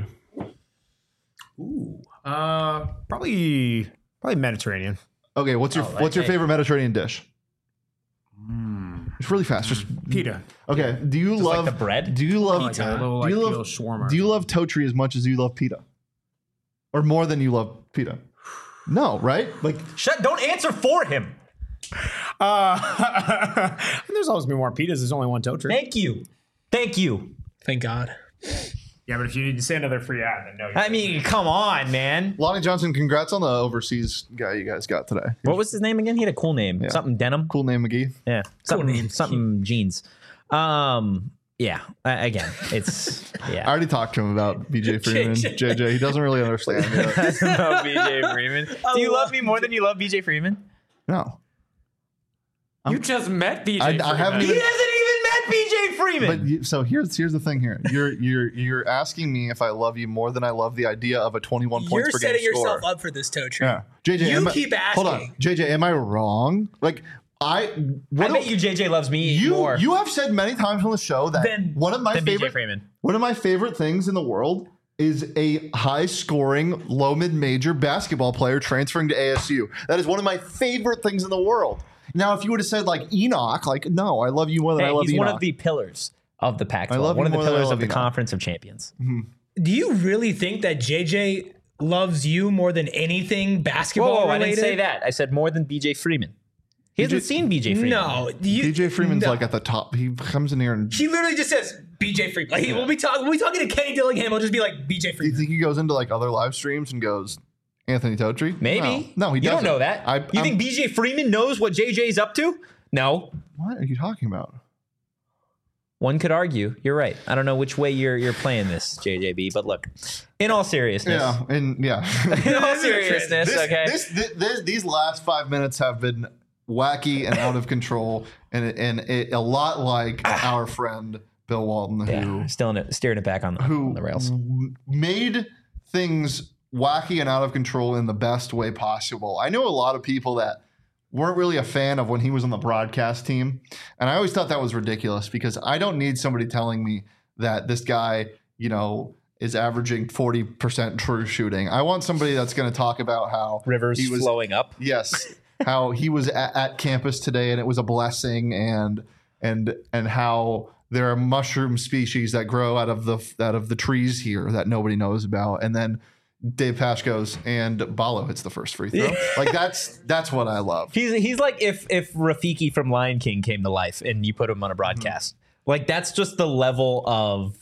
Uh, probably probably Mediterranean. Okay, what's your what's your hey. favorite Mediterranean dish? It's really fast. Just Pita. okay. Do you like love the bread? Do you love? Like a little, do you like, love? little shawarma. Do you love Totri as much as you love pita, or more than you love pita? No, right? Like Shut. Don't answer for him. Uh, there's always been more pitas. There's only one Totri. Thank you. Thank you. Thank God. Yeah, but if you need to say another free ad, then no. I mean, come on, man. Lonnie Johnson, congrats on the overseas guy you guys got today. What was his name again? He had a cool name. Something denim. Cool name, McGee. Yeah. Something. name. Something jeans. Um. Yeah. Uh, again, it's I yeah. already talked to him about B J Freeman. J J, he doesn't really understand yet. No, B J Freeman. Do you love me more than you love B J Freeman? No, You just met B J. I, I haven't He even. hasn't even met B J Freeman. But you, so here's here's the thing here. You're you're you're asking me if I love you more than I love the idea of a twenty-one points You're per game setting yourself score. up for this, Totri. Yeah, J J. You am I- keep Hold on, asking. J J. Am I wrong? Like I I what bet do- you J J loves me you more you have said many times on the show that Than- one of my than B J favorite Freeman. one of my favorite things in the world is a high scoring, low mid major basketball player transferring to A S U. That is one of my favorite things in the world. Now, if you would have said like Enoch, like no, I love you more than Hey, I love he's Enoch. one of the pillars of the Pac twelve. I love One him of the more than I pillars love of the Enoch. Conference of Champions. Do you really think that J J loves you more than anything basketball Whoa, I related? didn't say that. I said more than B J Freeman. He hasn't seen B J Freeman. No, you, D J Freeman's no. like at the top. He comes in here and He literally just says B J Freeman. Like, we'll be talking. We'll be talking to Kenny Dillingham. He'll just be like B J do you Freeman. think he goes into like other live streams and goes Anthony Totri? Maybe. No, no he You doesn't. don't know that. I, you I'm- think B J Freeman knows what J J's up to? No. What are you talking about? One could argue. You're right. I don't know which way you're you're playing this, J J B, but look, in all seriousness. Yeah, and yeah. In all seriousness, this, okay. this, this, this, these last five minutes have been wacky and out of control, and and it, a lot like our friend Bill Walton, who yeah, still in it, steering it back on the, who on the rails. w- made things wacky and out of control in the best way possible. I know a lot of people that weren't really a fan of when he was on the broadcast team, and I always thought that was ridiculous because I don't need somebody telling me that this guy, you know, is averaging forty percent true shooting. I want somebody that's going to talk about how Rivers he was flowing up. Yes, how he was at, at campus today and it was a blessing, and and and how there are mushroom species that grow out of the out of the trees here that nobody knows about, and then Dave Pasch goes and Balo hits the first free throw. Like that's that's what I love. He's he's like if if Rafiki from Lion King came to life and you put him on a broadcast. Mm-hmm. Like that's just the level of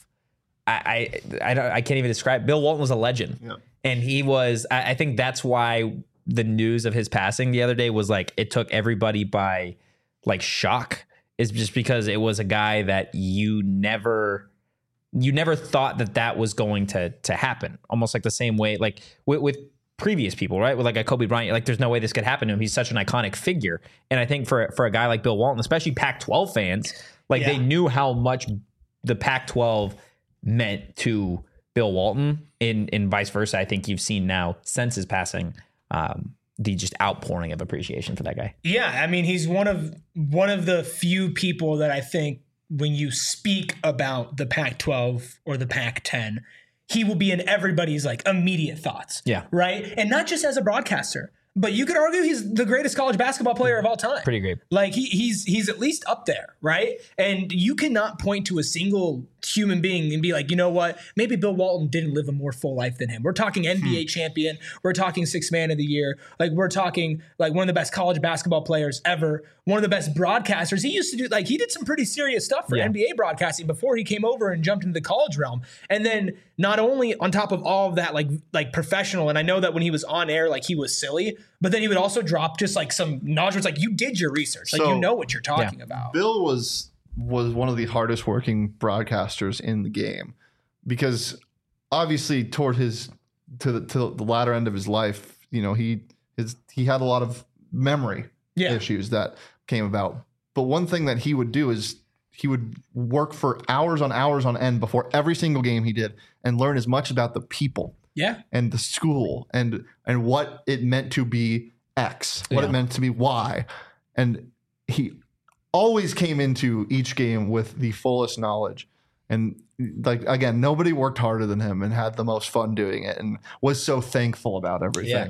I I I, don't, I can't even describe. Bill Walton was a legend, Yeah. and he was. I, I think that's why the news of his passing the other day was like it took everybody by like shock. Is just because it was a guy that you never. You never thought that that was going to to happen. Almost like the same way, like with, with previous people, right? With like a Kobe Bryant, like there's no way this could happen to him. He's such an iconic figure. And I think for for a guy like Bill Walton, especially Pac twelve fans, like Yeah. they knew how much the Pac twelve meant to Bill Walton. In in vice versa, I think you've seen now since his passing, um, the just outpouring of appreciation for that guy. Yeah, I mean, he's one of one of the few people that I think when you speak about the Pac twelve or the Pac ten, he will be in everybody's like immediate thoughts. Yeah. Right. And not just as a broadcaster, but you could argue he's the greatest college basketball player of all time. Pretty great. Like he, he's he's at least up there, right? And you cannot point to a single human being and be like, you know what? Maybe Bill Walton didn't live a more full life than him. We're talking N B A champion. We're talking sixth man of the year. Like we're talking like one of the best college basketball players ever. One of the best broadcasters. He used to do like he did some pretty serious stuff for Yeah. N B A broadcasting before he came over and jumped into the college realm. And then not only on top of all of that, like like professional. And I know that when he was on air, like he was silly, but then he would also drop just like some knowledge. Where it's like you did your research, like So, you know what you're talking about. Bill was was one of the hardest working broadcasters in the game because obviously toward his to the to the latter end of his life, you know, he his he had a lot of memory Yeah. issues that came about. But one thing that he would do is he would work for hours on hours on end before every single game he did and learn as much about the people Yeah. and the school and and what it meant to be X, what Yeah. it meant to be Y. And he always came into each game with the fullest knowledge. And like again, nobody worked harder than him and had the most fun doing it and was so thankful about everything.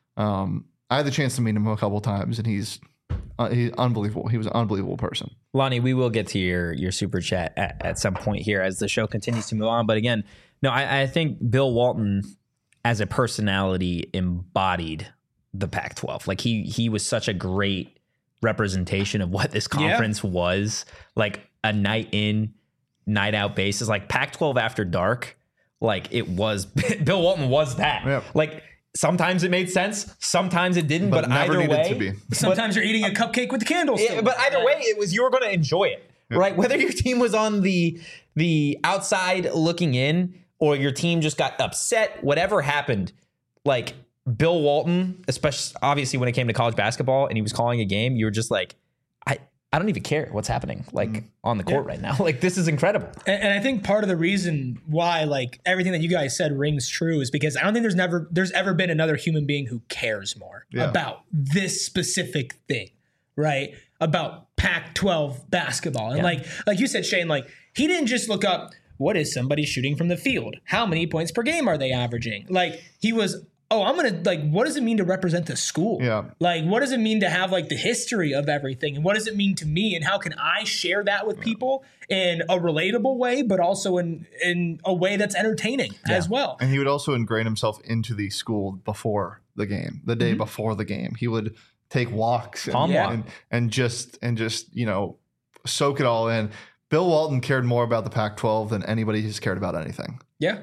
Um, I had the chance to meet him a couple times and he's uh, he's unbelievable. He was an unbelievable person. Lonnie, we will get to your your super chat at, at some point here as the show continues to move on. But again, no, I, I think Bill Walton as a personality embodied the Pac twelve. Like he he was such a great representation of what this conference was. Like a night in, night out basis. Like Pac twelve after dark. Like it was Bill Walton was that. Yep. Like sometimes it made sense, sometimes it didn't. But But, never either needed way, to be. Sometimes you're eating a cupcake with the candles. yeah, but either way, it was you were going to enjoy it, right? Whether your team was on the the outside looking in or your team just got upset, whatever happened, like Bill Walton, especially obviously when it came to college basketball and he was calling a game, you were just like, I I don't even care what's happening like on the court right now. Like this is incredible. And, and I think part of the reason why like everything that you guys said rings true is because I don't think there's never there's ever been another human being who cares more Yeah. about this specific thing, right, about Pac twelve basketball. And Yeah. like like you said, Shane, like he didn't just look up what is somebody shooting from the field? How many points per game are they averaging? Like he was, oh, I'm going to like, what does it mean to represent the school? Yeah. Like, what does it mean to have like the history of everything? And what does it mean to me? And how can I share that with people in a relatable way, but also in, in a way that's entertaining as well? And he would also ingrain himself into the school before the game, the day before the game. He would take walks and, Palm walk. and, and just and just, you know, soak it all in. Bill Walton cared more about the Pac twelve than anybody who's cared about anything. Yeah.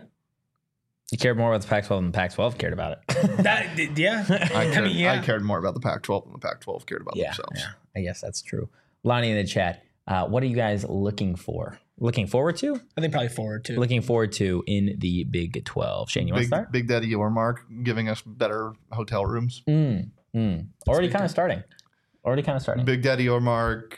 You cared more about the Pac twelve than the Pac twelve cared about it. That, yeah. I cared, mean, yeah. I cared more about the Pac twelve than the Pac twelve cared about yeah, themselves. yeah, I guess that's true. Lonnie in the chat, uh, what are you guys looking for? Looking forward to? I think probably forward too. Looking forward to in the Big twelve. Shane, you want to Big, start? Big Daddy Yormark giving us better hotel rooms. Mm, mm. Already kind of starting. Already kind of starting. Big Daddy Yormark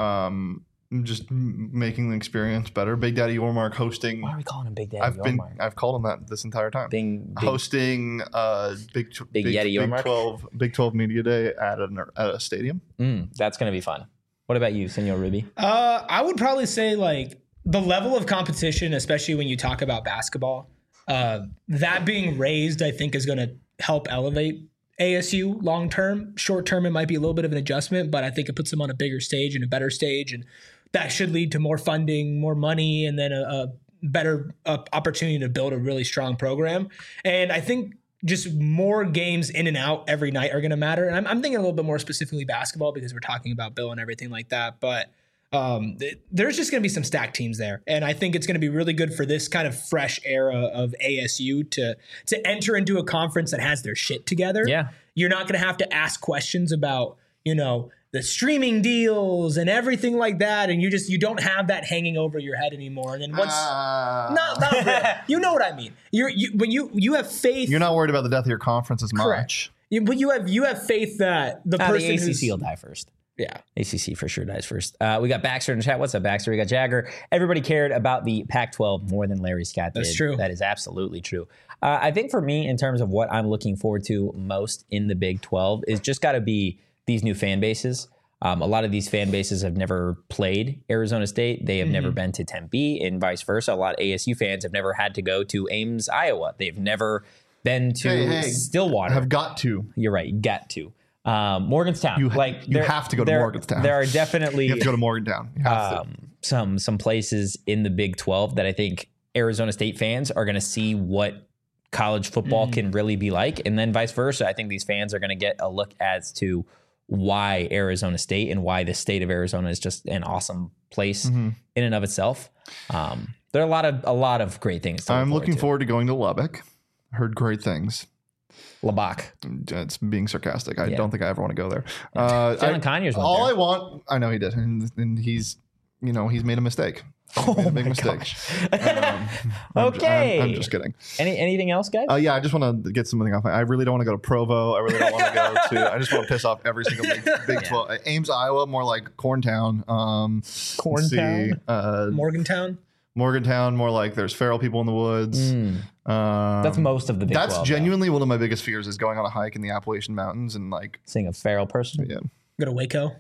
um, just m- making the experience better. Big Daddy Yormark hosting. Why are we calling him Big Daddy I've been Yormark? I've called him that this entire time. Bing, big, Hosting uh, Big tw- Big Yeti Big Yormark? twelve Big twelve Media Day at an, at a stadium. mm, that's going to be fun. What about you, Senor Ruby? Uh, I would probably say like the level of competition, especially when you talk about basketball, uh, that being raised, I think is going to help elevate A S U long term. Short term, it might be a little bit of an adjustment, but I think it puts them on a bigger stage and a better stage, and that should lead to more funding, more money, and then a, a better uh, opportunity to build a really strong program. And I think just more games in and out every night are going to matter. And I'm, I'm thinking a little bit more specifically basketball because we're talking about Bill and everything like that. But um, th- there's just going to be some stacked teams there. And I think it's going to be really good for this kind of fresh era of A S U to, to enter into a conference that has their shit together. Yeah. You're not going to have to ask questions about, you know, the streaming deals and everything like that. And you just, you don't have that hanging over your head anymore. And then once, Uh, not, not really. You know what I mean? You're, you, when you, you have faith. You're not worried about the death of your conference as Correct. much. You, but you have you have faith that the Ah, person the A C C who's will die first. yeah. A C C for sure dies first. Uh, we got Baxter in the chat. What's up, Baxter? We got Jagger. Everybody cared about the Pac twelve more than Larry Scott did. That's true. That is absolutely true. Uh, I think for me, in terms of what I'm looking forward to most in the Big twelve, is just got to be these new fan bases. Um, a lot of these fan bases have never played Arizona State. They have Mm-hmm. never been to Tempe, and vice versa. A lot of A S U fans have never had to go to Ames, Iowa. They've never been to Hey, hey, Stillwater. Have got to. You're right. You got to. Um, Morgantown. You ha- like you there- have to go to there- Morgantown. There are definitely You have to go to Morgantown. You have to. um, some some places in the Big twelve that I think Arizona State fans are going to see what college football Mm. can really be like, and then vice versa. I think these fans are going to get a look as to why Arizona State and why the state of Arizona is just an awesome place Mm-hmm. in and of itself. Um, there are a lot of a lot of great things. To look I'm forward looking to. forward to going to Lubbock. Heard great things. Lubbock. It's being sarcastic. I Yeah. don't think I ever want to go there. Uh, Jalen I- Conyers went all there. I want, I know he did, and, and he's, you know, he's made a mistake. He's made a big mistake. Um, I'm, Okay. I'm, I'm just kidding. Any anything else, guys? Uh, yeah, I just want to get something off. I really don't want to go to Provo. I really don't want to go to. I just want to piss off every single Big, big twelve. Ames, Iowa, more like Corntown. Um, let's Corntown? see, Uh, Morgantown. Morgantown, more like there's feral people in the woods. Um, That's most of the Big That's twelve. though. genuinely one of my biggest fears is going on a hike in the Appalachian Mountains and like, Seeing a feral person. yeah, Go to Waco.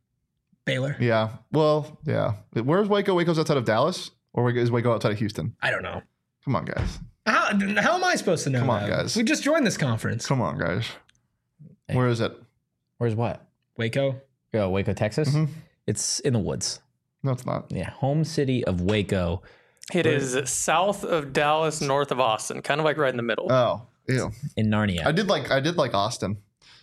Baylor. yeah. Well, yeah. Where's Waco? Waco's outside of Dallas, or is Waco outside of Houston? I don't know. Come on, guys. How, how am I supposed to know? Come on, that? guys. We just joined this conference. Come on, guys. Where is it? Where's what? Waco. Oh, Waco, Texas. Mhm. It's in the woods. No, it's not. Yeah, home city of Waco. It is south of Dallas, north of Austin, kind of like right in the middle. Oh, ew. In Narnia. I did like I did like Austin.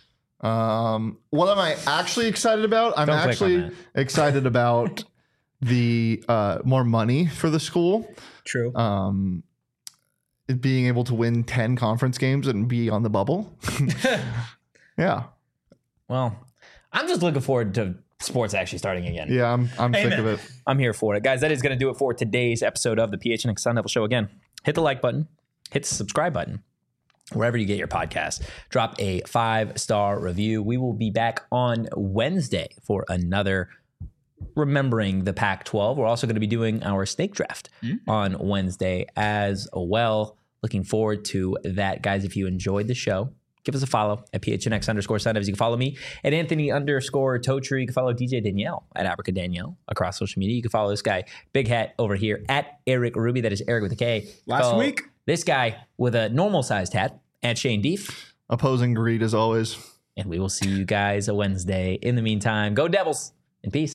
Um, what am I actually excited about? I'm Don't click on actually that. excited about the uh, more money for the school. True. Um, it being able to win ten conference games and be on the bubble. Yeah, Well, I'm just looking forward to sports actually starting again. yeah. I'm I'm sick Amen. of it. I'm here for it. Guys, that is going to do it for today's episode of the P H N X Sun Devil Show. Again, hit the like button, hit the subscribe button, wherever you get your podcast. Drop a five-star review. We will be back on Wednesday for another Remembering the Pac twelve. We're also going to be doing our snake draft on Wednesday as well. Looking forward to that. Guys, if you enjoyed the show, give us a follow at P H N X underscore Sun Devs. You can follow me at Anthony underscore Tocher. You can follow D J Danielle at Abrica Danielle across social media. You can follow this guy, Big Hat, over here at Eric Ruby. That is Eric with a K. Last Follow week. this guy with a normal sized hat at Shane Deef. Opposing greed as always. And we will see you guys a Wednesday. In the meantime, go Devils and peace.